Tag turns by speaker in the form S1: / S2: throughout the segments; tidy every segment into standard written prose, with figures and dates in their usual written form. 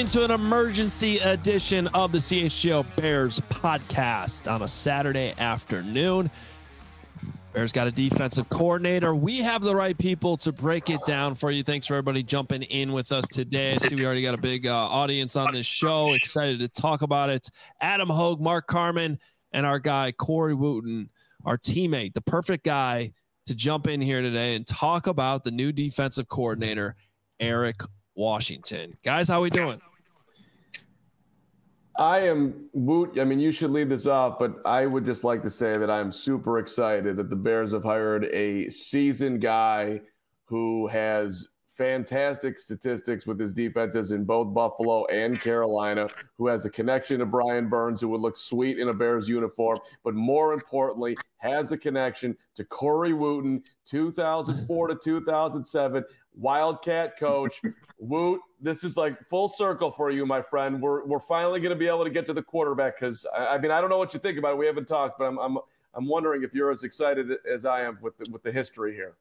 S1: into an emergency edition of the CHGO Bears podcast on a Saturday afternoon. Bears got a defensive coordinator. We have the right people to break it down for you. Thanks for everybody jumping in with us today. I see we already got a big audience on this show. Excited to talk about it. Adam Hogue, Mark Carman, and our guy Corey Wooten, our teammate, the perfect guy to jump in here today and talk about the new defensive coordinator, Eric Washington. Guys, how we doing?
S2: I am Woot. I mean, you should lead this off, but I would just like to say that I'm super excited that the Bears have hired a seasoned guy who has fantastic statistics with his defenses in both Buffalo and Carolina, who has a connection to Brian Burns, who would look sweet in a Bears uniform, but more importantly, has a connection to Corey Wooten, 2004 to 2007, Wildcat coach. Woot, this is like full circle for you, my friend. We're finally going to be able to get to the quarterback because I mean I don't know what you think about it. We haven't talked, but I'm wondering if you're as excited as I am with the history here.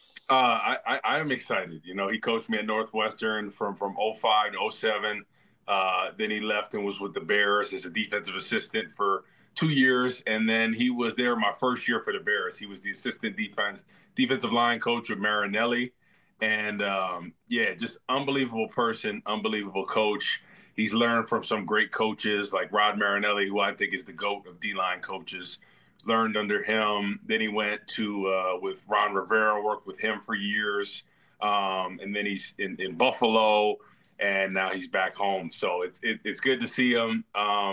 S3: I am excited. You know, he coached me at Northwestern from 05 to 07. Then he left and was with the Bears as a defensive assistant for 2 years, and then he was there my first year for the Bears. He was the assistant defensive line coach with Marinelli. And, just unbelievable person, unbelievable coach. He's learned from some great coaches like Rod Marinelli, who I think is the GOAT of D-line coaches, learned under him. Then he went to with Ron Rivera, worked with him for years. And then he's in Buffalo, and now he's back home. So it's good to see him.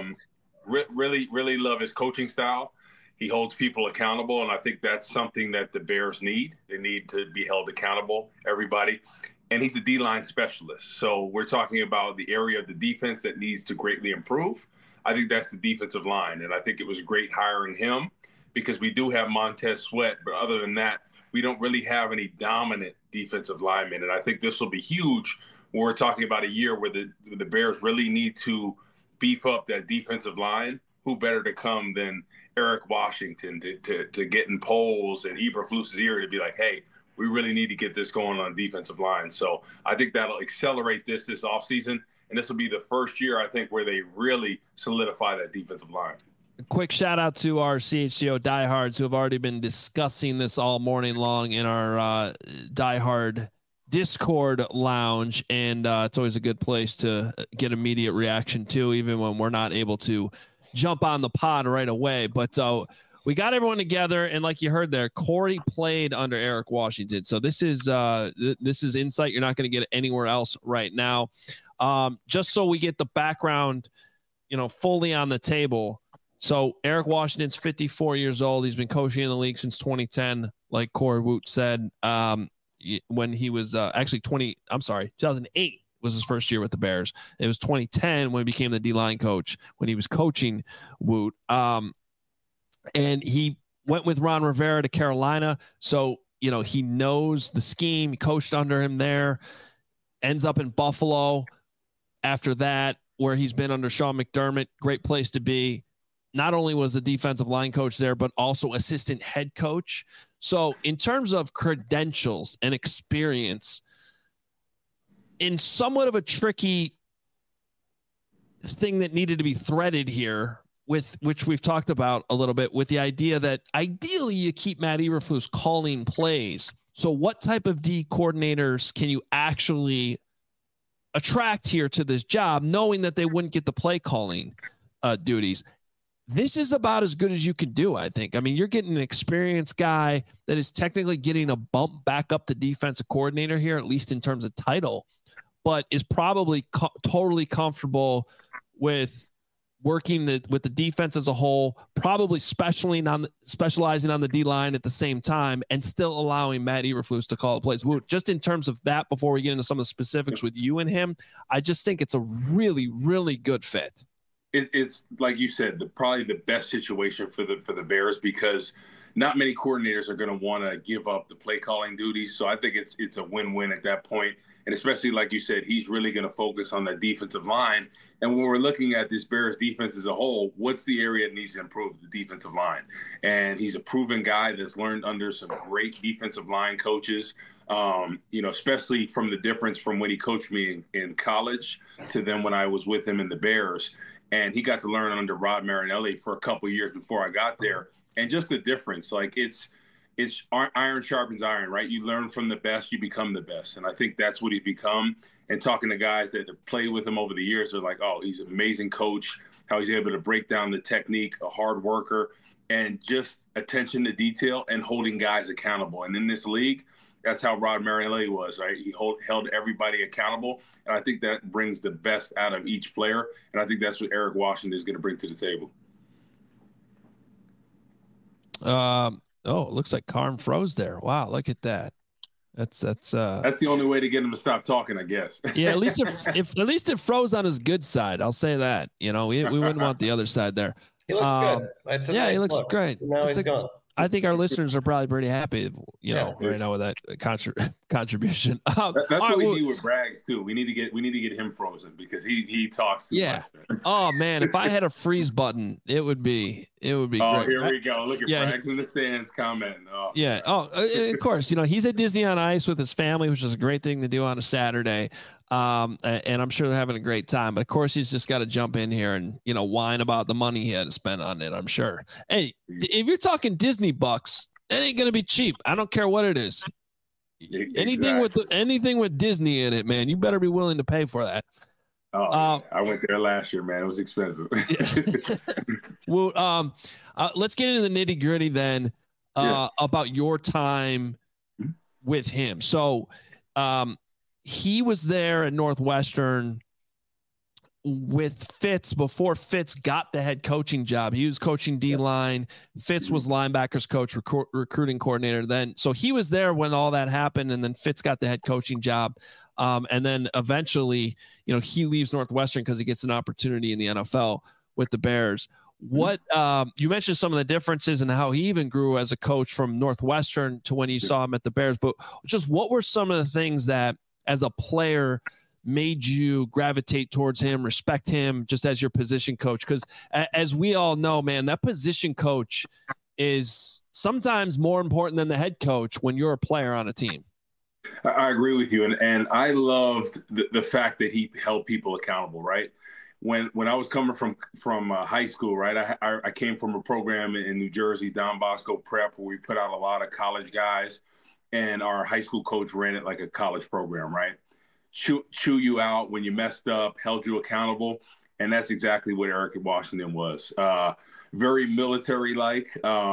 S3: Really, really love his coaching style. He holds people accountable, and I think that's something that the Bears need. They need to be held accountable, everybody. And he's a D-line specialist. So we're talking about the area of the defense that needs to greatly improve. I think that's the defensive line, and I think it was great hiring him because we do have Montez Sweat, but other than that, we don't really have any dominant defensive linemen. And I think this will be huge when we're talking about a year where the Bears really need to beef up that defensive line. Who better to come than Eric Washington to get in polls and Eberflus's ear to be like, hey, we really need to get this going on defensive line. So I think that'll accelerate this offseason, and this will be the first year, I think, where they really solidify that defensive line.
S1: Quick shout out to our CHGO diehards who have already been discussing this all morning long in our diehard Discord lounge, and it's always a good place to get immediate reaction too, even when we're not able to jump on the pod right away. But we got everyone together, and like you heard there, Corey played under Eric Washington. So this is insight you're not going to get anywhere else right now. Just so we get the background, fully on the table. So Eric Washington's 54 years old. He's been coaching in the league since 2010, like Corey Woot said. When he was actually 2008. Was his first year with the Bears. It was 2010 when he became the D-line coach, when he was coaching Woot. And he went with Ron Rivera to Carolina. So, he knows the scheme. He coached under him there, ends up in Buffalo after that, where he's been under Sean McDermott. Great place to be. Not only was the defensive line coach there, but also assistant head coach. So in terms of credentials and experience, in somewhat of a tricky thing that needed to be threaded here, with which we've talked about a little bit, with the idea that ideally you keep Matt Eberflus calling plays. So what type of D coordinators can you actually attract here to this job, knowing that they wouldn't get the play calling duties? This is about as good as you can do, I think. I mean, you're getting an experienced guy that is technically getting a bump back up to defensive coordinator here, at least in terms of title, but is probably totally comfortable with working with the defense as a whole, probably specializing on the D-line at the same time, and still allowing Matt Eberflus to call the plays. Just in terms of that, before we get into some of the specifics with you and him, I just think it's a really, really good fit.
S3: It's like you said, probably the best situation for the Bears, because not many coordinators are going to want to give up the play calling duties. So I think it's a win-win at that point. And especially, like you said, he's really going to focus on that defensive line. And when we're looking at this Bears defense as a whole, what's the area that needs to improve? The defensive line. And he's a proven guy that's learned under some great defensive line coaches, especially from the difference from when he coached me in college to then when I was with him in the Bears. And he got to learn under Rod Marinelli for a couple of years before I got there. And just the difference, like it's iron sharpens iron, right? You learn from the best, you become the best. And I think that's what he's become. And talking to guys that have played with him over the years, they're like, oh, he's an amazing coach, how he's able to break down the technique, a hard worker, and just attention to detail and holding guys accountable. And in this league, that's how Rod Marinelli was, right? He held everybody accountable. And I think that brings the best out of each player. And I think that's what Eric Washington is going to bring to the table.
S1: Oh, it looks like Carm froze there. Wow, look at that. That's
S3: the only way to get him to stop talking, I guess.
S1: Yeah, at least if at least it froze on his good side. I'll say that. We wouldn't want the other side there.
S4: He looks good. Nice
S1: he looks
S4: look.
S1: great.
S4: Now he's gone.
S1: I think our listeners are probably pretty happy, right now with that contribution.
S3: That's what we need with Braggs too. We need to get him frozen because he talks too much. Man.
S1: Oh man, if I had a freeze button, it would be
S3: Oh,
S1: great.
S3: Here we go. Look at Braggs in the stands commenting. Oh.
S1: Yeah. Oh, of course. He's at Disney on Ice with his family, which is a great thing to do on a Saturday. And I'm sure they're having a great time. But of course, he's just got to jump in here and whine about the money he had to spend on it. I'm sure. Hey, if you're talking Disney bucks, it ain't gonna be cheap. I don't care what it is.
S3: Exactly.
S1: Anything with Disney in it, man, you better be willing to pay for that.
S3: Oh, I went there last year, man. It was expensive.
S1: Well, let's get into the nitty gritty then about your time with him. So, he was there at Northwestern with Fitz before Fitz got the head coaching job. He was coaching D-line. Fitz was linebackers coach, recruiting coordinator then. So he was there when all that happened, and then Fitz got the head coaching job. And then eventually, he leaves Northwestern because he gets an opportunity in the NFL with the Bears. What you mentioned some of the differences and how he even grew as a coach from Northwestern to when you saw him at the Bears, but just what were some of the things that as a player made you gravitate towards him, respect him just as your position coach? Because as we all know, man, that position coach is sometimes more important than the head coach when you're a player on a team.
S3: I agree with you. And I loved the fact that he held people accountable, right? When I was coming from high school, right, I came from a program in New Jersey, Don Bosco Prep, where we put out a lot of college guys, and our high school coach ran it like a college program, right? Chew you out when you messed up, held you accountable. And that's exactly what Eric Washington was. Very military-like.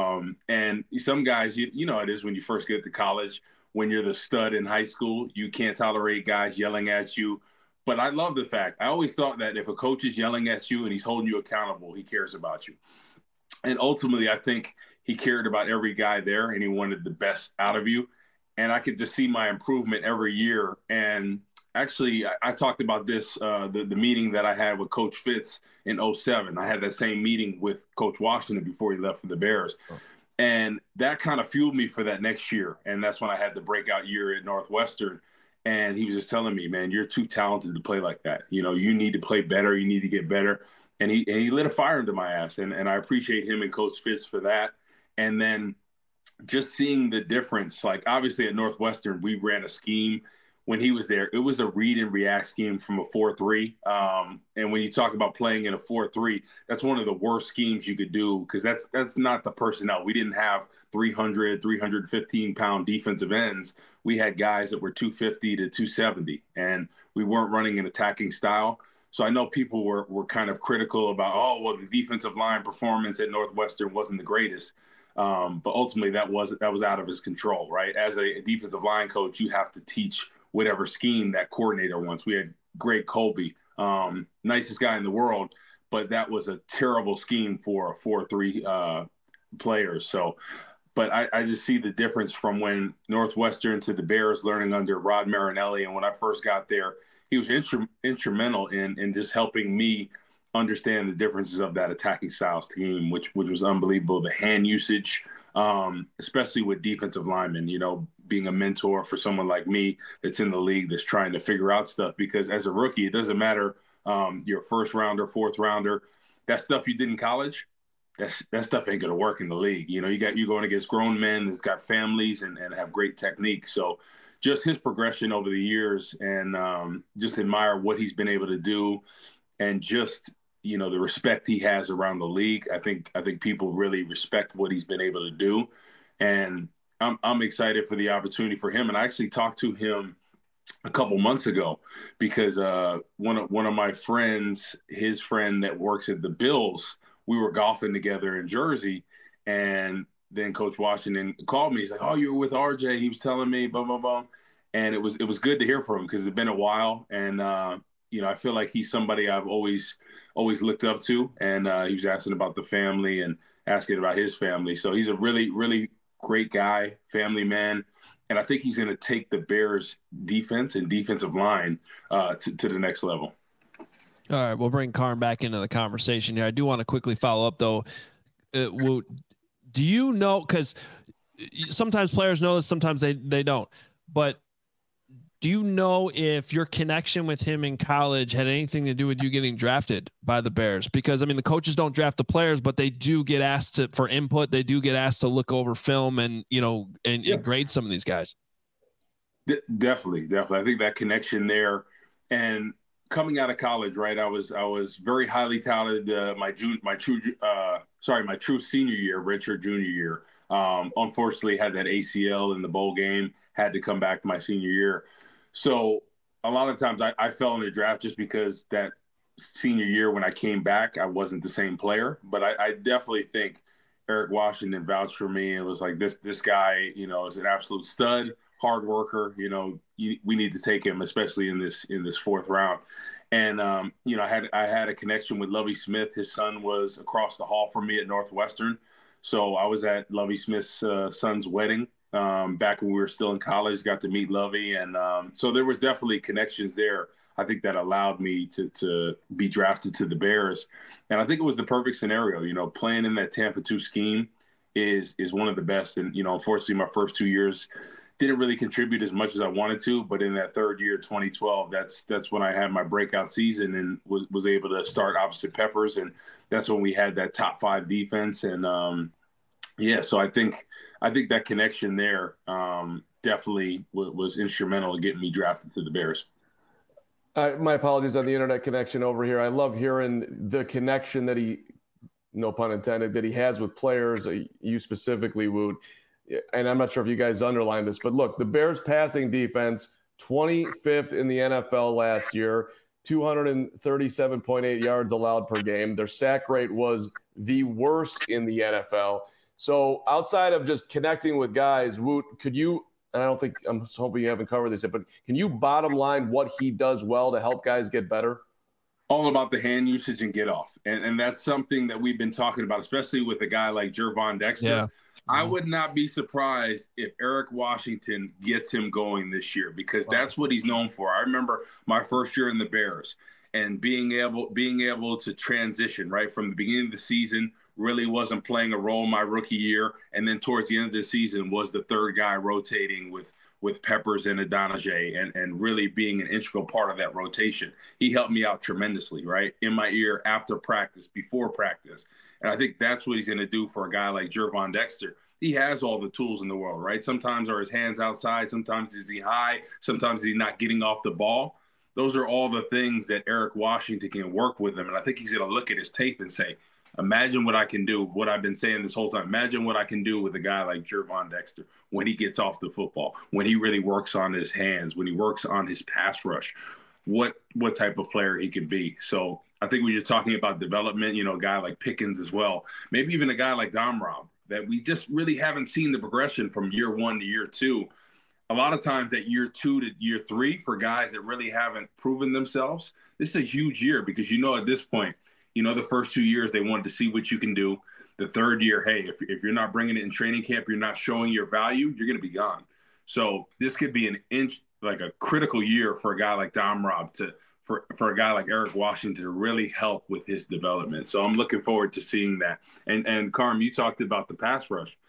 S3: And some guys, you know it is when you first get to college, when you're the stud in high school, you can't tolerate guys yelling at you. But I love the fact, I always thought that if a coach is yelling at you and he's holding you accountable, he cares about you. And ultimately, I think he cared about every guy there and he wanted the best out of you. And I could just see my improvement every year. And actually, I talked about this, the meeting that I had with Coach Fitz in 2007. I had that same meeting with Coach Washington before he left for the Bears. Oh. And that kind of fueled me for that next year. And that's when I had the breakout year at Northwestern. And he was just telling me, man, you're too talented to play like that. You need to play better. You need to get better. And he lit a fire into my ass. And I appreciate him and Coach Fitz for that. And then just seeing the difference, like obviously at Northwestern, we ran a scheme when he was there. It was a read and react scheme from a 4-3. And when you talk about playing in a 4-3, that's one of the worst schemes you could do because that's not the personnel. We didn't have 300, 315-pound defensive ends. We had guys that were 250 to 270, and we weren't running an attacking style. So I know people were kind of critical about, the defensive line performance at Northwestern wasn't the greatest. But ultimately, that was out of his control, right? As a defensive line coach, you have to teach whatever scheme that coordinator wants. We had Greg Colby, nicest guy in the world, but that was a terrible scheme for a 4-3 players. So, but I just see the difference from when Northwestern to the Bears learning under Rod Marinelli. And when I first got there, he was instrumental in just helping me understand the differences of that attacking style scheme, which was unbelievable. The hand usage, especially with defensive linemen, being a mentor for someone like me that's in the league that's trying to figure out stuff. Because as a rookie, it doesn't matter you're a first rounder, fourth rounder, that stuff you did in college, that stuff ain't gonna work in the league. You know, you're going against grown men that's got families and have great technique. So just his progression over the years, and just admire what he's been able to do, and just, you know, the respect he has around the league. I think people really respect what he's been able to do, and I'm excited for the opportunity for him. And I actually talked to him a couple months ago because one of my friends, his friend that works at the Bills, we were golfing together in Jersey, and then Coach Washington called me. He's like, "Oh, you were with RJ." He was telling me, blah blah blah, and it was good to hear from him because it's been a while, and you know, I feel like he's somebody I've always looked up to, and he was asking about the family and asking about his family. So he's a really, really great guy, family man, and I think he's going to take the Bears defense and defensive line to the next level.
S1: All right, we'll bring Carm back into the conversation here. I do want to quickly follow up though. Do you know, because sometimes players know this, sometimes they don't, but do you know if your connection with him in college had anything to do with you getting drafted by the Bears? Because, I mean, the coaches don't draft the players, but they do get asked for input. They do get asked to look over film and, you know, and grade some of these guys.
S3: Definitely. I think that connection there, and coming out of college, right, I was very highly touted my true senior year, redshirt junior year. Unfortunately, had that ACL in the bowl game, had to come back my senior year. So a lot of times I fell in the draft just because that senior year when I came back, I wasn't the same player. But I definitely think Eric Washington vouched for me. It was like, this guy, you know, is an absolute stud, hard worker. You know, we need to take him, especially in this fourth round. And you know, I had a connection with Lovie Smith. His son was across the hall from me at Northwestern, so I was at Lovie Smith's son's wedding back when we were still in college. Got to meet Lovie, and so there was definitely connections there. I think that allowed me to be drafted to the Bears, and I think it was the perfect scenario. You know, playing in that Tampa 2 scheme is one of the best. And you know, unfortunately, my first 2 years didn't really contribute as much as I wanted to, but in that third year, 2012, that's when I had my breakout season and was able to start opposite Peppers, and that's when we had that top 5 defense. And so I think that connection there definitely was instrumental in getting me drafted to the Bears.
S2: My apologies on the internet connection over here. I love hearing the connection that he, no pun intended, that he has with players, you specifically, Woot. And I'm not sure if you guys underlined this, but look, the Bears passing defense, 25th in the NFL last year, 237.8 yards allowed per game. Their sack rate was the worst in the NFL. So outside of just connecting with guys, Woot, could you, and I'm hoping you haven't covered this yet, but can you bottom line what he does well to help guys get better?
S3: All about the hand usage and get off. And that's something that we've been talking about, especially with a guy like Gervon Dexter.
S1: Yeah.
S3: I would not be surprised if Eric Washington gets him going this year, because that's what he's known for. I remember my first year in the Bears and being able to transition right from the beginning of the season, really wasn't playing a role my rookie year. And then towards the end of the season was the third guy rotating with Peppers and Adonijah and really being an integral part of that rotation. He helped me out tremendously, right? In my ear, after practice, before practice. And I think that's what he's going to do for a guy like Gervon Dexter. He has all the tools in the world, right? Sometimes are his hands outside. Sometimes is he high. Sometimes he's not getting off the ball. Those are all the things that Eric Washington can work with him. And I think he's going to look at his tape and say, imagine what I can do, what I've been saying this whole time. Imagine what I can do with a guy like Gervon Dexter when he gets off the football, when he really works on his hands, when he works on his pass rush, what type of player he can be. So I think when you're talking about development, you know, a guy like Pickens as well, maybe even a guy like Domrob, that we just really haven't seen the progression from year 1 to year 2. A lot of times that year 2 to year 3 for guys that really haven't proven themselves, this is a huge year because, you know, at this point, you know, the first 2 years, they wanted to see what you can do. The third year, hey, if you're not bringing it in training camp, you're not showing your value, you're going to be gone. So this could be like a critical year for a guy like Domrob for a guy like Eric Washington to really help with his development. So I'm looking forward to seeing that. And Carm, you talked about the pass rush.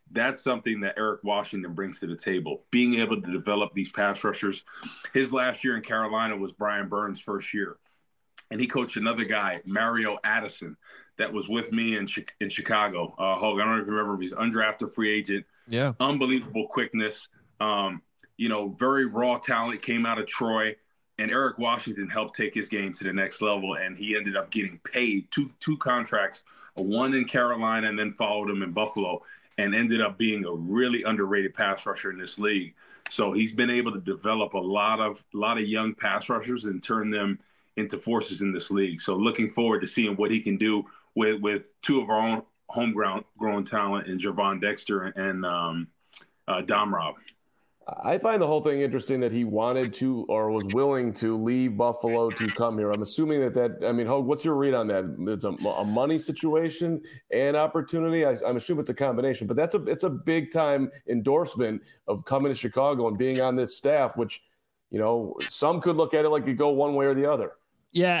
S3: That's something that Eric Washington brings to the table, being able to develop these pass rushers. His last year in Carolina was Brian Burns' first year. And he coached another guy, Mario Addison, that was with me in Chicago. Hogue, I don't know if you remember, he's undrafted free agent.
S1: Yeah.
S3: Unbelievable quickness. Very raw talent, came out of Troy. And Eric Washington helped take his game to the next level, and he ended up getting paid two contracts, one in Carolina and then followed him in Buffalo, and ended up being a really underrated pass rusher in this league. So he's been able to develop a lot of young pass rushers and turn them into forces in this league. So looking forward to seeing what he can do with two of our own homegrown talent in Gervon Dexter and Dom Rob.
S2: I find the whole thing interesting that he wanted to or was willing to leave Buffalo to come here. I'm assuming Hogue, what's your read on that? It's a money situation and opportunity. I'm assuming it's a combination, but it's a big time endorsement of coming to Chicago and being on this staff, which, some could look at it like you go one way or the other.
S1: Yeah.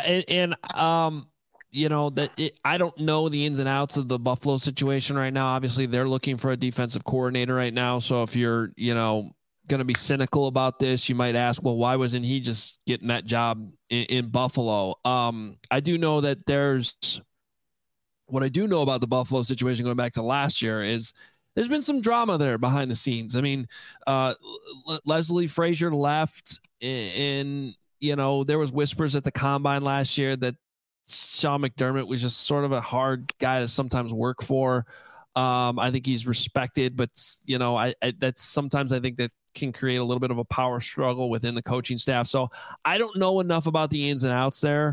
S1: I don't know the ins and outs of the Buffalo situation right now. Obviously they're looking for a defensive coordinator right now. So if you're, going to be cynical about this, you might ask, well, why wasn't he just getting that job in Buffalo? I do know that what I do know about the Buffalo situation going back to last year is there's been some drama there behind the scenes. I mean, Leslie Frazier left and there was whispers at the combine last year that Sean McDermott was just sort of a hard guy to sometimes work for. I think he's respected, but that's sometimes I think that can create a little bit of a power struggle within the coaching staff. So I don't know enough about the ins and outs there.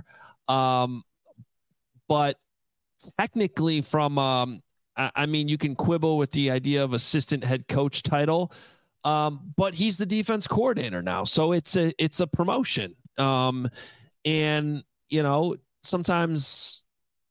S1: But technically from, you can quibble with the idea of assistant head coach title. But he's the defense coordinator now. So it's a promotion. Sometimes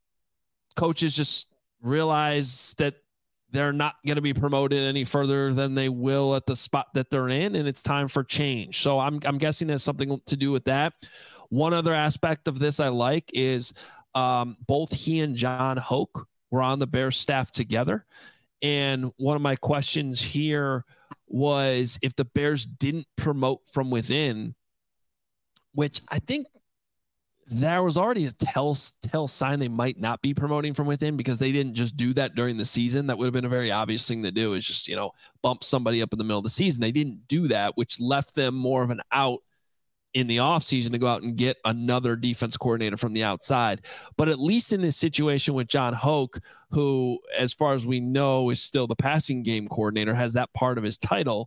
S1: coaches just realize that they're not going to be promoted any further than they will at the spot that they're in, and it's time for change. So I'm guessing there's something to do with that. One other aspect of this I like is both he and John Hoke were on the Bears staff together. And one of my questions here was if the Bears didn't promote from within, which I think there was already a tell sign they might not be promoting from within because they didn't just do that during the season. That would have been a very obvious thing to do, is just, bump somebody up in the middle of the season. They didn't do that, which left them more of an out in the offseason to go out and get another defense coordinator from the outside. But at least in this situation with John Hoke, who, as far as we know, is still the passing game coordinator, has that part of his title.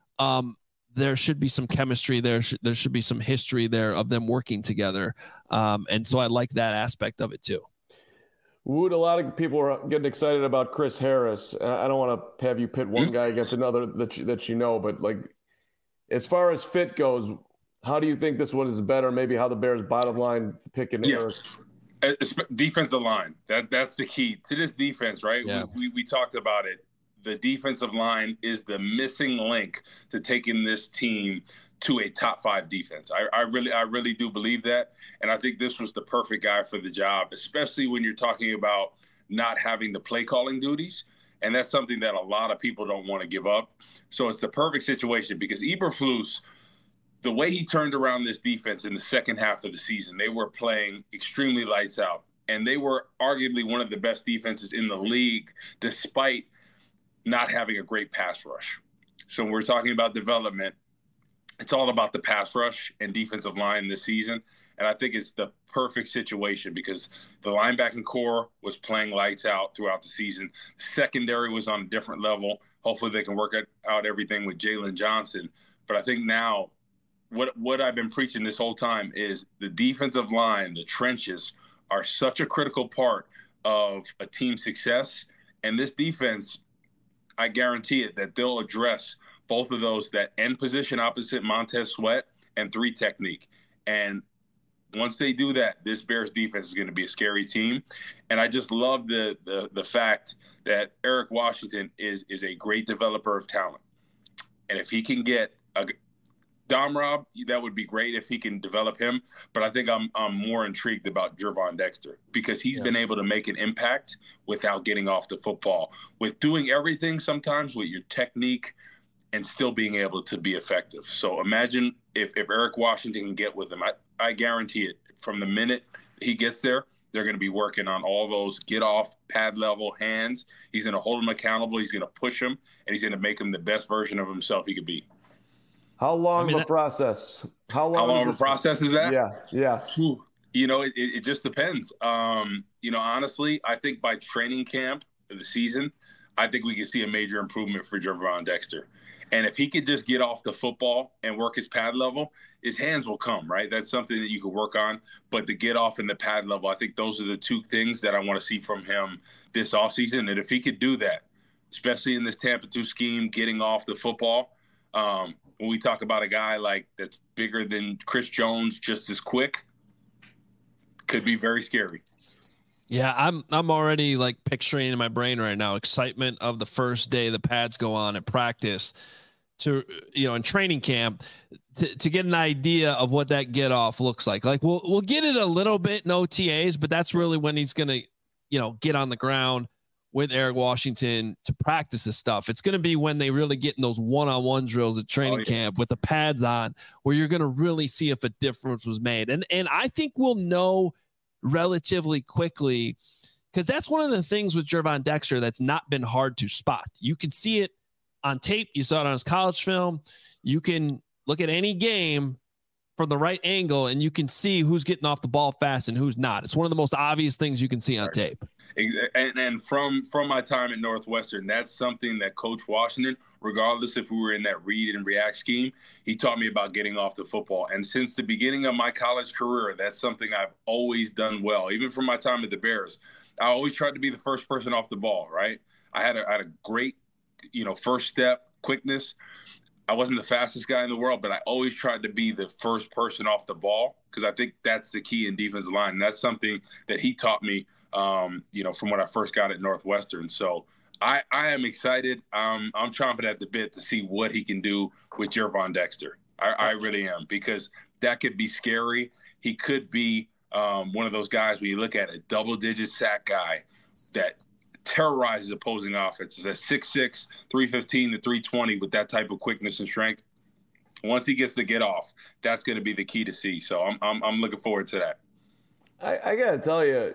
S1: There should be some chemistry there. There should be some history there of them working together. And so I like that aspect of it too.
S2: Wood, a lot of people are getting excited about Chris Harris. I don't want to have you pit one guy against another that but like, as far as fit goes, how do you think this one is better? Maybe how the Bears' bottom line picking Harris?
S3: Defensive line. That's the key to this defense, right? Yeah. We talked about it. The defensive line is the missing link to taking this team to a top 5 defense. I really do believe that. And I think this was the perfect guy for the job, especially when you're talking about not having the play calling duties. And that's something that a lot of people don't want to give up. So it's the perfect situation because Eberflus, the way he turned around this defense in the second half of the season, they were playing extremely lights out. And they were arguably one of the best defenses in the league, despite not having a great pass rush. So when we're talking about development, it's all about the pass rush and defensive line this season. And I think it's the perfect situation because the linebacking core was playing lights out throughout the season. Secondary was on a different level. Hopefully they can work out everything with Jalen Johnson. But I think now what I've been preaching this whole time is the defensive line, the trenches, are such a critical part of a team's success. And this defense, I guarantee it, that they'll address both of those, that end position opposite Montez Sweat and 3 technique. And once they do that, this Bears defense is going to be a scary team. And I just love the fact that Eric Washington is a great developer of talent. And if he can get Rob, that would be great if he can develop him. But I think I'm more intrigued about Gervon Dexter because he's been able to make an impact without getting off the football, with doing everything sometimes with your technique and still being able to be effective. So imagine if Eric Washington can get with him. I guarantee it. From the minute he gets there, they're going to be working on all those get off, pad level hands. He's going to hold him accountable. He's going to push him, and he's going to make him the best version of himself he could be.
S2: How long of a process? How
S3: long of a process is that?
S2: Yeah.
S3: You know, it just depends. You know, honestly, I think by training camp of the season, I think we can see a major improvement for Gervon Dexter. And if he could just get off the football and work his pad level, his hands will come, right? That's something that you could work on. But the get off and the pad level, I think those are the two things that I want to see from him this offseason. And if he could do that, especially in this Tampa 2 scheme, getting off the football, when we talk about a guy like that's bigger than Chris Jones, just as quick, could be very scary.
S1: Yeah, I'm already like picturing in my brain right now excitement of the first day the pads go on at practice to, you know, in training camp to get an idea of what that get off looks like. Like we'll get it a little bit in OTAs, but that's really when he's going to, you know, get on the ground with Eric Washington to practice this stuff. It's going to be when they really get in those one-on-one drills at training camp with the pads on, where you're going to really see if a difference was made. And I think we'll know relatively quickly, because that's one of the things with Gervon Dexter that's not been hard to spot. You can see it on tape. You saw it on his college film. You can look at any game from the right angle and you can see who's getting off the ball fast and who's not. It's one of the most obvious things you can see on tape.
S3: And from my time at Northwestern, that's something that Coach Washington, regardless if we were in that read and react scheme, he taught me about getting off the football. And since the beginning of my college career, that's something I've always done well. Even from my time at the Bears, I always tried to be the first person off the ball, right? I had a great, you know, first step, quickness. I wasn't the fastest guy in the world, but I always tried to be the first person off the ball because I think that's the key in defensive line. And that's something that he taught me, you know, from when I first got at Northwestern. So I am excited. I'm chomping at the bit to see what he can do with Gervon Dexter. I really am, because that could be scary. He could be one of those guys where you look at a double-digit sack guy that terrorizes opposing offenses at 6'6", 315 to 320 with that type of quickness and strength. Once he gets to get off, that's going to be the key to see. So I'm looking forward to that.
S2: I got to tell you,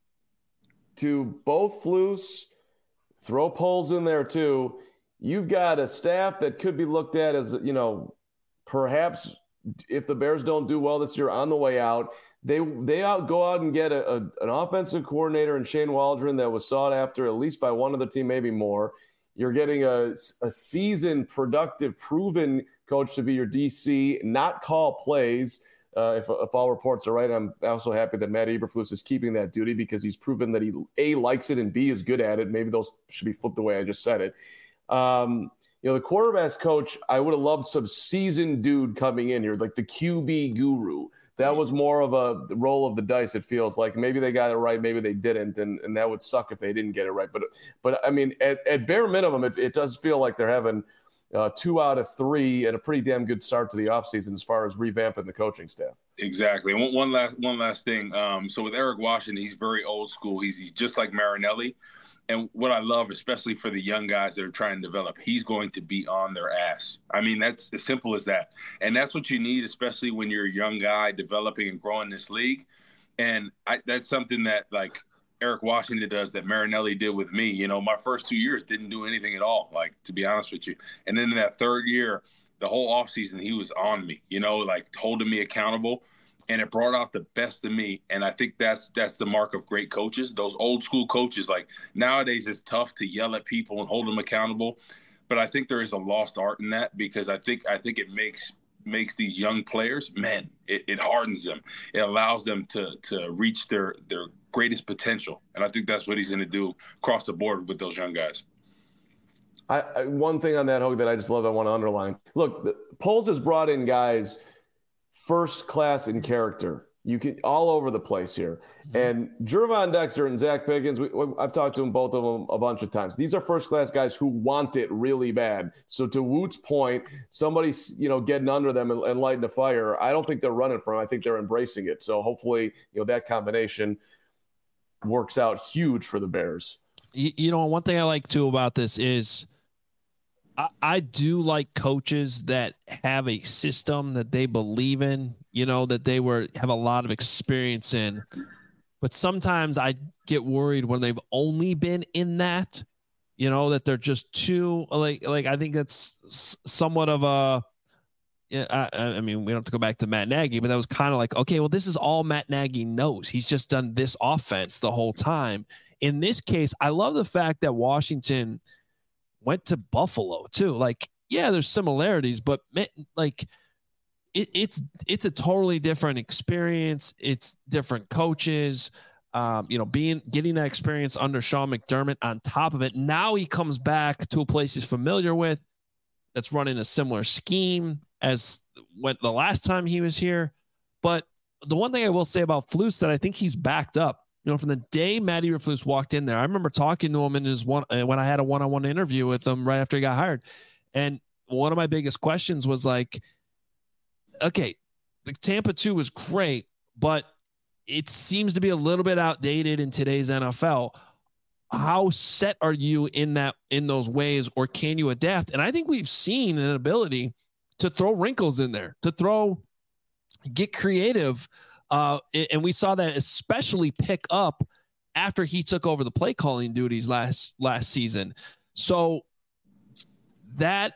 S2: to both Flus, throw Poles in there too, you've got a staff that could be looked at as, you know, perhaps if the Bears don't do well this year on the way out, they go out and get an offensive coordinator in Shane Waldron that was sought after at least by one of the team, maybe more. You're getting a seasoned, productive, proven coach to be your DC, not call plays. If all reports are right, I'm also happy that Matt Eberflus is keeping that duty because he's proven that he A, likes it, and B, is good at it. Maybe those should be flipped the way I just said it. You know, the quarterback's coach, I would have loved some seasoned dude coming in here, like the QB guru. That was more of a roll of the dice, it feels like. Maybe they got it right, maybe they didn't, and that would suck if they didn't get it right. But I mean, at bare minimum, it does feel like they're having 2 out of 3 and a pretty damn good start to the offseason as far as revamping the coaching staff.
S3: Exactly. One last thing. So with Eric Washington, he's very old school. He's just like Marinelli. And what I love, especially for the young guys that are trying to develop, he's going to be on their ass. I mean, that's as simple as that. And that's what you need, especially when you're a young guy developing and growing this league. And that's something that, like, Eric Washington does that Marinelli did with me. You know, my first 2 years didn't do anything at all, like, to be honest with you. And then in that third year, the whole offseason, he was on me, you know, like holding me accountable. And it brought out the best of me. And I think that's the mark of great coaches. Those old school coaches, like nowadays it's tough to yell at people and hold them accountable. But I think there is a lost art in that, because I think it makes these young players men. It hardens them. It allows them to reach their greatest potential. And I think that's what he's going to do across the board with those young guys.
S2: One thing on that, Hogue, that I just love, I want to underline. Look, Poles has brought in guys first class in character. You can all over the place here. And Gervon Dexter and Zach Pickens, I've talked to them, both of them, a bunch of times. These are first-class guys who want it really bad. So to Woot's point, somebody's getting under them and lighting a fire. I don't think they're running from it. I think they're embracing it. So hopefully, that combination works out huge for the Bears.
S1: One thing I like too about this is I do like coaches that have a system that they believe in, that they have a lot of experience in. But sometimes I get worried when they've only been in that, that they're just too like I think that's somewhat of a, I mean, we don't have to go back to Matt Nagy, but that was kind of like, okay, well, this is all Matt Nagy knows. He's just done this offense the whole time. In this case, I love the fact that Washington went to Buffalo too. Like, yeah, there's similarities, but like it's a totally different experience. It's different coaches, getting that experience under Sean McDermott on top of it. Now he comes back to a place he's familiar with that's running a similar scheme as when the last time he was here. But the one thing I will say about Flus that I think he's backed up, from the day Matty Eberflus walked in there, I remember talking to him in when I had a one-on-one interview with him right after he got hired. And one of my biggest questions was like, okay, the Tampa 2 was great, but it seems to be a little bit outdated in today's NFL. How set are you in those ways, or can you adapt? And I think we've seen an ability to throw wrinkles in there, get creative. And we saw that especially pick up after he took over the play calling duties last season. So that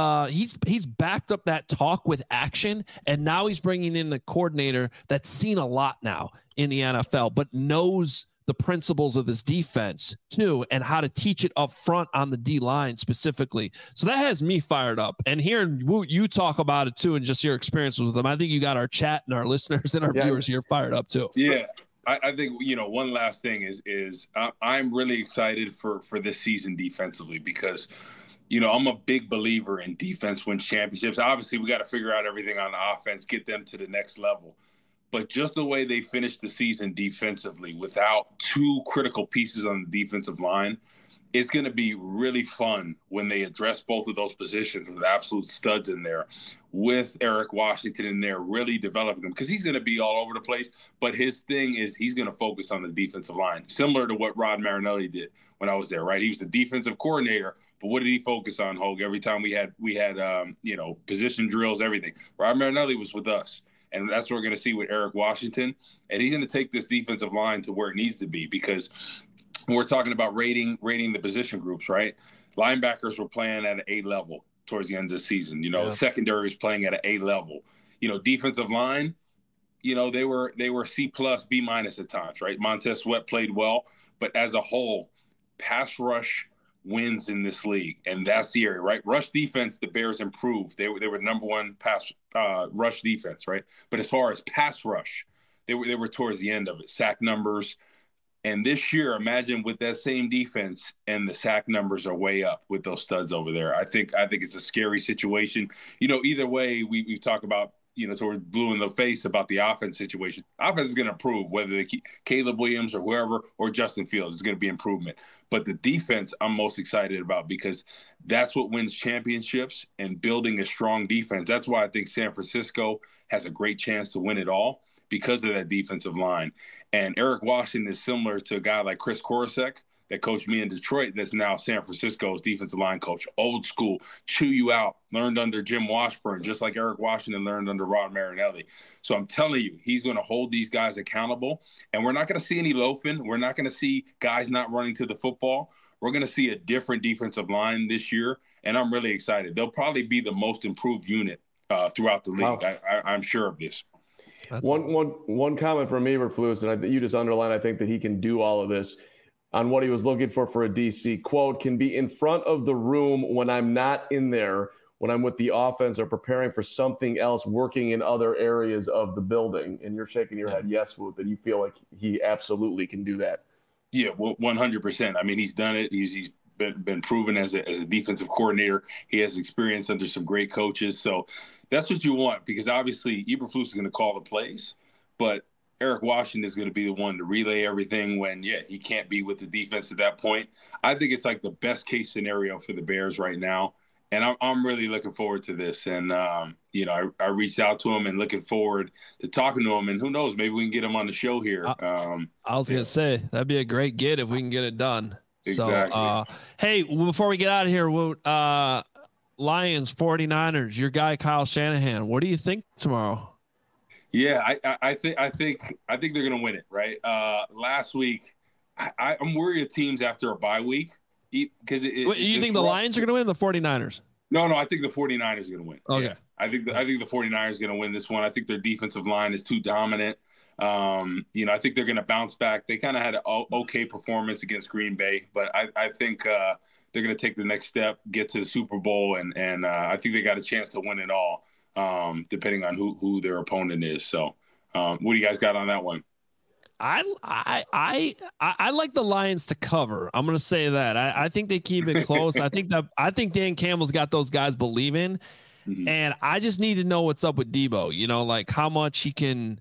S1: he's backed up that talk with action, and now he's bringing in the coordinator that's seen a lot now in the NFL, but knows the principles of this defense too, and how to teach it up front on the D line specifically. So that has me fired up. And hearing you talk about it too, and just your experience with them, I think you got our chat and our listeners and our viewers here fired up too.
S3: Yeah. I think, one last thing is I'm really excited for this season defensively because, I'm a big believer in defense wins championships. Obviously, we got to figure out everything on offense, get them to the next level. But just the way they finished the season defensively without two critical pieces on the defensive line, it's going to be really fun when they address both of those positions with absolute studs in there, with Eric Washington in there, really developing them, because he's going to be all over the place. But his thing is he's going to focus on the defensive line, similar to what Rod Marinelli did when I was there, right? He was the defensive coordinator, but what did he focus on, Hogue? Every time we had position drills, everything. Rod Marinelli was with us. And that's what we're going to see with Eric Washington. And he's going to take this defensive line to where it needs to be, because we're talking about rating the position groups, right? Linebackers were playing at an A level towards the end of the season. Secondary is playing at an A level. Defensive line, they were C+, B- at times, right? Montez Sweat played well, but as a whole, pass rush wins in this league, and that's the area, right? Rush defense, the Bears improved. They were number one pass rush defense, right? But as far as pass rush, they were towards the end of it. Sack numbers, and this year, imagine with that same defense, and the sack numbers are way up with those studs over there. I think it's a scary situation. Either way, we talk about so we're blue in the face about the offense situation. Offense is going to improve, whether they keep Caleb Williams or whoever, or Justin Fields, is going to be improvement. But the defense I'm most excited about, because that's what wins championships, and building a strong defense. That's why I think San Francisco has a great chance to win it all, because of that defensive line. And Eric Washington is similar to a guy like Chris Korosek that coached me in Detroit, that's now San Francisco's defensive line coach. Old school, chew you out, learned under Jim Washburn, just like Eric Washington learned under Rod Marinelli. So I'm telling you, he's going to hold these guys accountable, and we're not going to see any loafing. We're not going to see guys not running to the football. We're going to see a different defensive line this year, and I'm really excited. They'll probably be the most improved unit throughout the league. Wow. I'm sure of this.
S2: One comment from Eberflus, and you just underlined, I think, that he can do all of this, on what he was looking for a DC. Quote, can be in front of the room when I'm not in there, when I'm with the offense or preparing for something else, working in other areas of the building. And you're shaking your head, yes, Woot, that you feel like he absolutely can do that.
S3: Yeah, well, 100%. I mean, he's done it. He's been proven as a defensive coordinator. He has experience under some great coaches. So that's what you want, because obviously Eberflus is going to call the plays, but Eric Washington is going to be the one to relay everything when, he can't be with the defense at that point. I think it's like the best case scenario for the Bears right now. And I'm really looking forward to this. And, I reached out to him and looking forward to talking to him. And who knows, maybe we can get him on the show here.
S1: I was going to say, that'd be a great get if we can get it done.
S3: Exactly.
S1: So, hey, before we get out of here, Lions, 49ers, your guy, Kyle Shanahan, what do you think tomorrow?
S3: Yeah, I think they're going to win it, right? Last week, I'm worried of teams after a bye week. Because
S1: you think the Lions are going to win or the 49ers?
S3: No, I think the 49ers are going to win.
S1: Okay.
S3: Yeah. I think the 49ers are going to win this one. I think their defensive line is too dominant. I think they're going to bounce back. They kind of had an okay performance against Green Bay, but I think they're going to take the next step, get to the Super Bowl, and I think they got a chance to win it all, depending on who their opponent is. So what do you guys got on that one?
S1: I like the Lions to cover. I'm going to say that. I think they keep it close. I think Dan Campbell's got those guys believing, and I just need to know what's up with Debo. Like how much he can.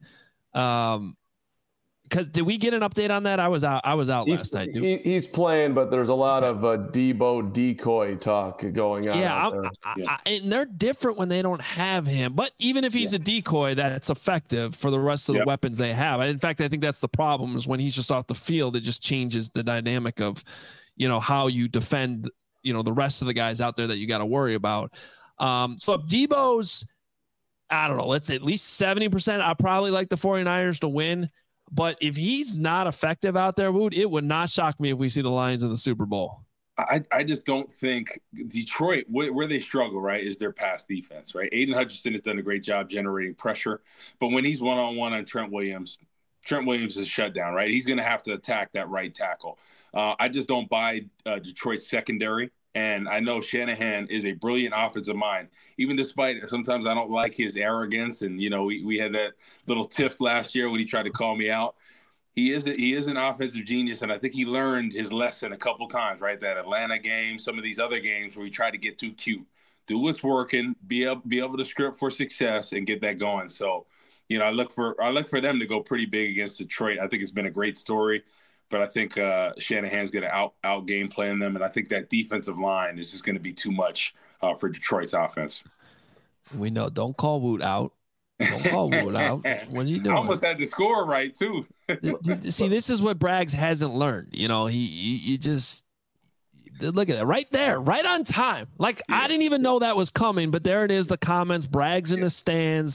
S1: Because did we get an update on that? I was out last night.
S2: He's playing, but there's a lot of Debo decoy talk going on.
S1: Yeah, and they're different when they don't have him. But even if he's a decoy, that's effective for the rest of the weapons they have. In fact, I think that's the problem is when he's just off the field, it just changes the dynamic of, how you defend, the rest of the guys out there that you got to worry about. So if Debo's, I don't know, let's say at least 70%, I probably like the 49ers to win. But if he's not effective out there, it would not shock me if we see the Lions in the Super Bowl.
S3: I just don't think Detroit, where they struggle, right, is their pass defense, right? Aiden Hutchinson has done a great job generating pressure. But when he's one-on-one on Trent Williams is shut down, right? He's going to have to attack that right tackle. I just don't buy Detroit's secondary. And I know Shanahan is a brilliant offensive mind, even despite sometimes I don't like his arrogance. And, we had that little tiff last year when he tried to call me out. He is an offensive genius, and I think he learned his lesson a couple times, right? That Atlanta game, some of these other games where he tried to get too cute. Do what's working, be able to script for success and get that going. So, I look for them to go pretty big against Detroit. I think it's been a great story. But I think Shanahan's going to out game plan them, and I think that defensive line is just going to be too much for Detroit's offense.
S1: We know. Don't call Woot out. Don't call Woot out. What are you doing?
S3: I almost had the score right too.
S1: See, this is what Braggs hasn't learned. He just look at it right there, right on time. Like I didn't even know that was coming, but there it is. The comments, Braggs in the stands,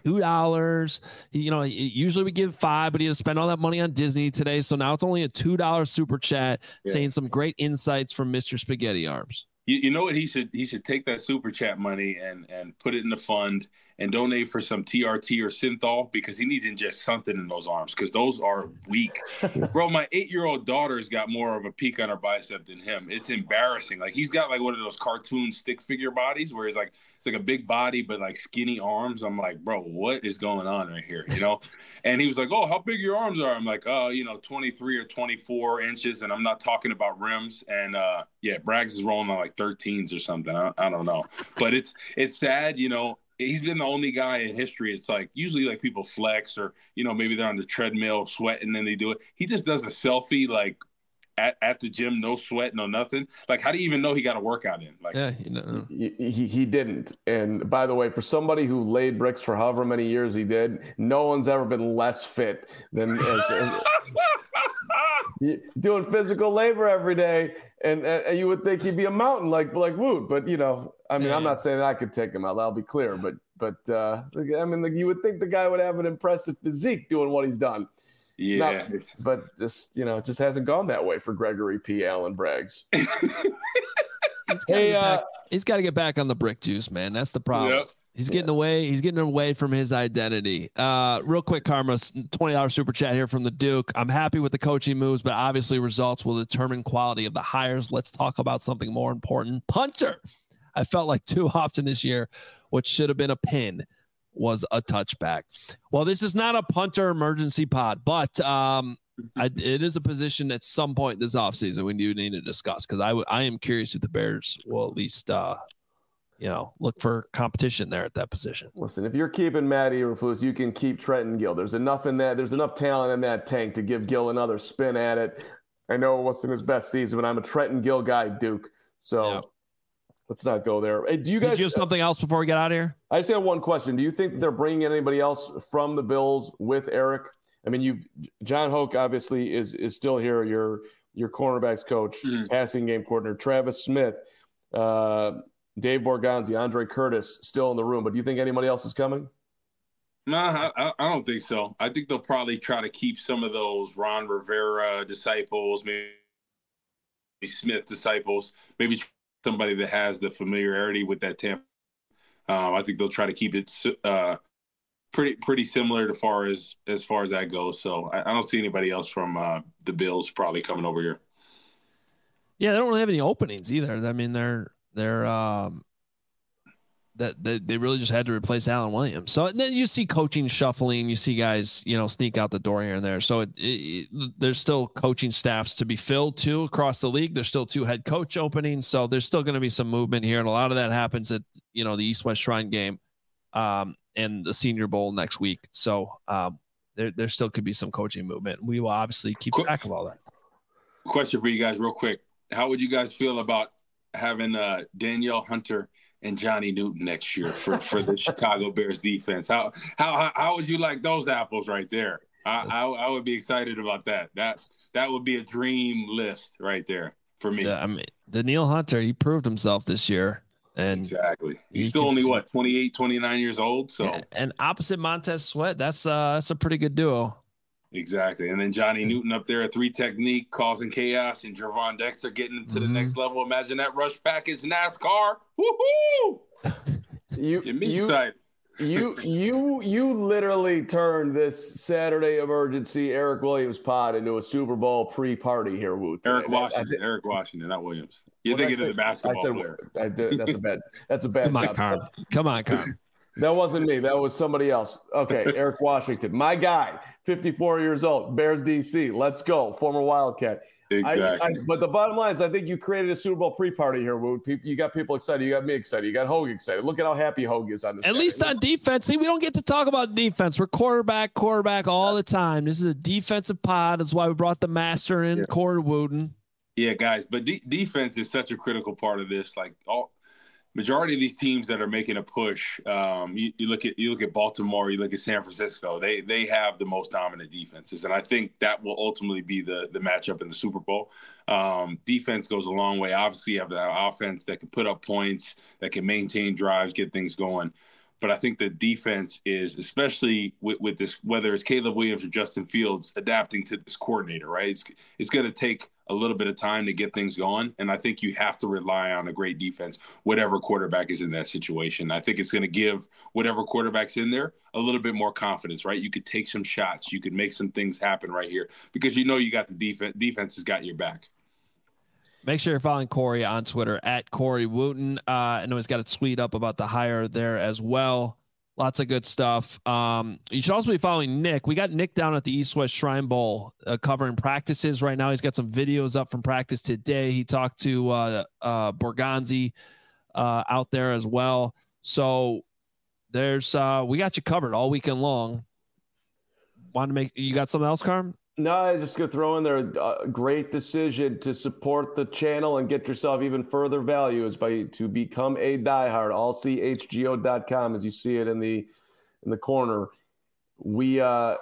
S1: $2. Usually we give $5, but he had to spend all that money on Disney today. So now it's only a $2 super chat saying some great insights from Mr. Spaghetti Arms.
S3: You know what he should take that super chat money and put it in the fund and donate for some TRT or Synthol because he needs to ingest something in those arms because those are weak. Bro, my 8-year-old daughter's got more of a peak on her bicep than him. It's embarrassing. Like he's got like one of those cartoon stick figure bodies where it's like a big body but like skinny arms. I'm like, bro, what is going on right here? And he was like, oh, how big your arms are? I'm like, 23 or 24 inches, and I'm not talking about rims. And Braggs is rolling on like 13s or something. I don't know, but it's sad. He's been the only guy in history. It's like usually like people flex or maybe they're on the treadmill sweating and they do it. He just does a selfie like at the gym, no sweat, no nothing. Like how do you even know he got a workout in? Like
S2: he didn't. And by the way, for somebody who laid bricks for however many years he did, no one's ever been less fit than doing physical labor every day, and you would think he'd be a mountain like Woot, but I'm not saying I could take him out. I'll be clear, but you would think the guy would have an impressive physique doing what he's done.
S3: Yeah,
S2: but just it just hasn't gone that way for Gregory P. Allen Braggs.
S1: He's got to get back on the brick juice, man. That's the problem.
S3: Yep.
S1: He's getting away. He's getting away from his identity. Real quick, Karma, $20 super chat here from the Duke. I'm happy with the coaching moves, but obviously results will determine quality of the hires. Let's talk about something more important. Punter. I felt like too often this year, what should have been a pin was a touchback. Well, this is not a punter emergency pod, but it is a position at some point this offseason we do need to discuss because I am curious if the Bears will at least look for competition there at that position.
S2: Listen, if you're keeping Matt Eberflus, you can keep Trenton Gill. There's enough in that. There's enough talent in that tank to give Gill another spin at it. I know it wasn't his best season, but I'm a Trenton Gill guy, Duke. So let's not go there. Hey, do you guys
S1: have something else before we get out of here?
S2: I just have one question. Do you think they're bringing in anybody else from the Bills with Eric? I mean, John Hoke obviously is still here. Your cornerbacks coach, passing game coordinator, Travis Smith, Dave Borgonzi, Andre Curtis still in the room. But do you think anybody else is coming?
S3: No, I don't think so. I think they'll probably try to keep some of those Ron Rivera disciples, maybe Smith disciples, maybe somebody that has the familiarity with that Tampa. I think they'll try to keep it pretty similar as far as that goes. So I don't see anybody else from the Bills probably coming over here.
S1: Yeah, they don't really have any openings either. I mean, they're they really just had to replace Alan Williams. So then you see coaching shuffling, you see guys, sneak out the door here and there. So there's still coaching staffs to be filled too across the league. There's still 2 head coach openings. So there's still going to be some movement here. And a lot of that happens at, the East-West Shrine game and the Senior Bowl next week. So there still could be some coaching movement. We will obviously keep track of all that.
S3: Question for you guys real quick. How would you guys feel about having Danielle Hunter and Johnny Newton next year for the Chicago Bears defense? How would you like those apples right there? I would be excited about that. That would be a dream list right there for me.
S1: Yeah, I mean, Danielle Hunter, he proved himself this year. And
S3: exactly. He's still only 28, 29 years old. So
S1: and opposite Montez Sweat, that's a pretty good duo.
S3: Exactly. And then Johnny Newton up there, a 3 technique, causing chaos, and Gervon Dexter getting to the next level. Imagine that rush package NASCAR. Woohoo!
S2: You literally turned this Saturday emergency Eric Williams pod into a Super Bowl pre-party here, Woot.
S3: Eric Washington, not Williams. You're thinking of the basketball player.
S2: That's a bad job.
S1: Come on, Carm.
S2: That wasn't me. That was somebody else. Okay, Eric Washington. My guy, 54 years old, Bears DC. Let's go. Former Wildcat.
S3: Exactly.
S2: But the bottom line is I think you created a Super Bowl pre-party here, Woot. You got people excited. You got me excited. You got Hogue excited. Look at how happy Hogue is on this.
S1: At least on defense. See, we don't get to talk about defense. We're quarterback all the time. This is a defensive pod. That's why we brought the master in, Corey Wooten.
S3: Yeah, guys. But defense is such a critical part of this. Like majority of these teams that are making a push, you look at Baltimore, you look at San Francisco, they have the most dominant defenses. And I think that will ultimately be the matchup in the Super Bowl. Defense goes a long way. Obviously, you have the offense that can put up points, that can maintain drives, get things going. But I think the defense is, especially with this, whether it's Caleb Williams or Justin Fields, adapting to this coordinator, right? It's going to take a little bit of time to get things going. And I think you have to rely on a great defense, whatever quarterback is in that situation. I think it's going to give whatever quarterback's in there a little bit more confidence, right? You could take some shots. You could make some things happen right here because you got the defense. Defense has got your back.
S1: Make sure you're following Corey on Twitter at Corey Wooten. I know he's got a tweet up about the hire there as well. Lots of good stuff. You should also be following Nick. We got Nick down at the East-West Shrine Bowl covering practices right now. He's got some videos up from practice today. He talked to Borgonzi out there as well. So there's we got you covered all weekend long. You got something else, Carm?
S2: No, I was just going to throw in there a great decision to support the channel and get yourself even further value is to become a diehard, allchgo.com, as you see it in the corner. We,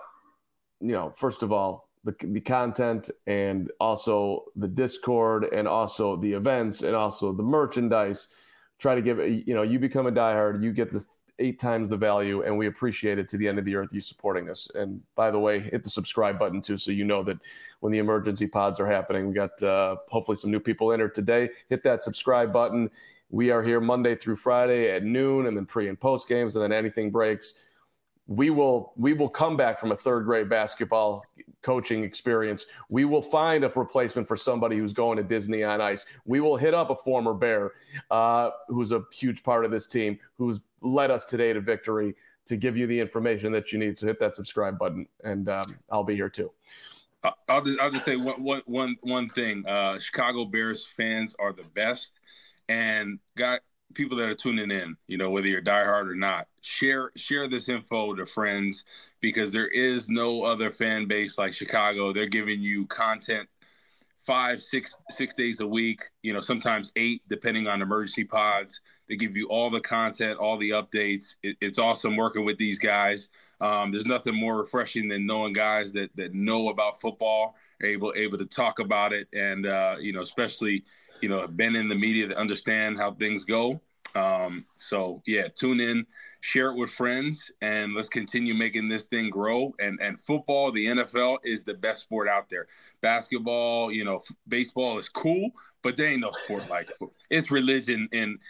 S2: first of all, the content and also the Discord and also the events and also the merchandise, try to give, you become a diehard, you get the 8 times the value, and we appreciate it to the end of the earth, you supporting us. And by the way, hit the subscribe button too, so you know that when the emergency pods are happening. We got hopefully some new people in here today. Hit that subscribe button. We are here Monday through Friday at noon, and then pre and post games, and then anything breaks. We will come back from a 3rd grade basketball coaching experience. We will find a replacement for somebody who's going to Disney on Ice. We will hit up a former Bear who's a huge part of this team, who's led us today to victory, to give you the information that you need. So hit that subscribe button, and I'll be here too.
S3: I'll just say one thing. Chicago Bears fans are the best, and people that are tuning in, whether you're diehard or not, share this info to friends, because there is no other fan base like Chicago. They're giving you content 5-6 days a week, sometimes 8, depending on emergency pods. They give you all the content, all the updates. It's awesome working with these guys. There's nothing more refreshing than knowing guys that know about football, are able to talk about it, and especially have been in the media to understand how things go. So yeah, tune in, share it with friends, and let's continue making this thing grow. And football, the NFL, is the best sport out there. Basketball, baseball is cool, but there ain't no sport like it. It's religion. And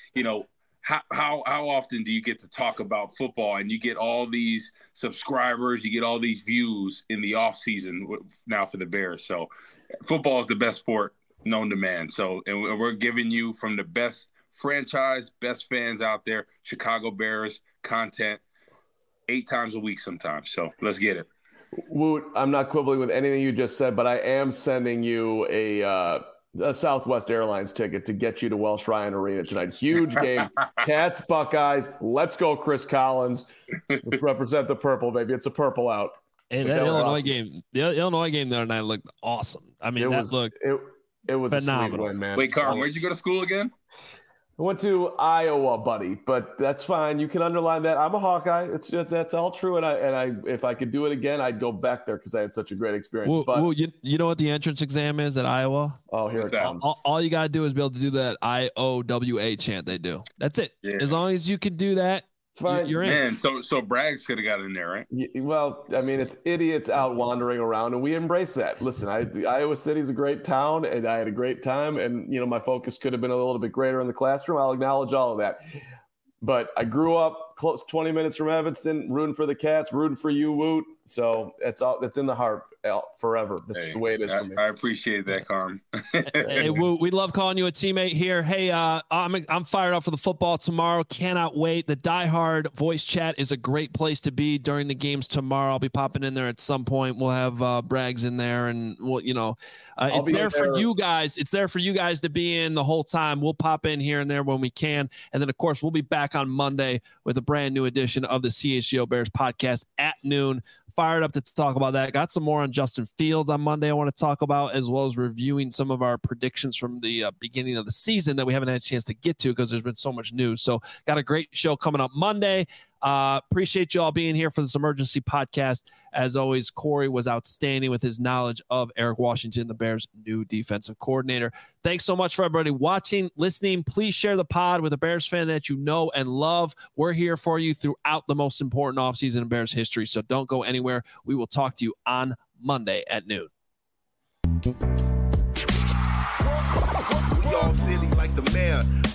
S3: how often do you get to talk about football and you get all these subscribers, you get all these views in the off season now for the Bears? So football is the best sport known to man. So, and we're giving you from the best franchise, best fans out there, Chicago Bears content 8 times a week sometimes. So let's get it.
S2: Woot, I'm not quibbling with anything you just said, but I am sending you a Southwest Airlines ticket to get you to Welsh Ryan Arena tonight. Huge game. Cats, Buckeyes. Let's go, Chris Collins. Let's represent the purple, baby. It's a purple out.
S1: Hey, that Illinois game, the Illinois game the other night looked awesome. I mean,
S2: it was
S1: phenomenal,
S2: a sweet win, man.
S3: Wait, Carl, where'd you go to school again?
S2: I went to Iowa, buddy, but that's fine. You can underline that. I'm a Hawkeye. It's just, that's all true. And I if I could do it again, I'd go back there because I had such a great experience.
S1: You know what the entrance exam is at Iowa?
S2: Oh, here it comes.
S1: All you got to do is be able to do that IOWA chant they do. That's it. Yeah. As long as you can do that, it's fine. You're in.
S3: Man, so Braggs could have got in there, right?
S2: Well, I mean, it's idiots out wandering around, and we embrace that. Listen, Iowa City's a great town, and I had a great time, and my focus could have been a little bit greater in the classroom. I'll acknowledge all of that. But I grew up close 20 minutes from Evanston, rooting for the Cats, rooting for you, Woot. So it's in the heart forever. That's just the way it is for me.
S3: I appreciate that, Carm.
S1: Hey, Woot, we love calling you a teammate here. Hey, I'm fired up for the football tomorrow. Cannot wait. The Die Hard voice chat is a great place to be during the games tomorrow. I'll be popping in there at some point. We'll have Braggs in there, and it's there for you guys. It's there for you guys to be in the whole time. We'll pop in here and there when we can, and then of course we'll be back on Monday with a brand new edition of the CHGO Bears podcast at noon. Fired up to talk about that. Got some more on Justin Fields on Monday I want to talk about, as well as reviewing some of our predictions from the beginning of the season that we haven't had a chance to get to because there's been so much news. So got a great show coming up Monday. Appreciate you all being here for this emergency podcast. As always, Corey was outstanding with his knowledge of Eric Washington, the Bears' new defensive coordinator. Thanks so much for everybody watching, listening. Please share the pod with a Bears fan that you know and love. We're here for you throughout the most important offseason in Bears history, so don't go anywhere. We will talk to you on Monday at noon.
S4: We all silly like the mayor.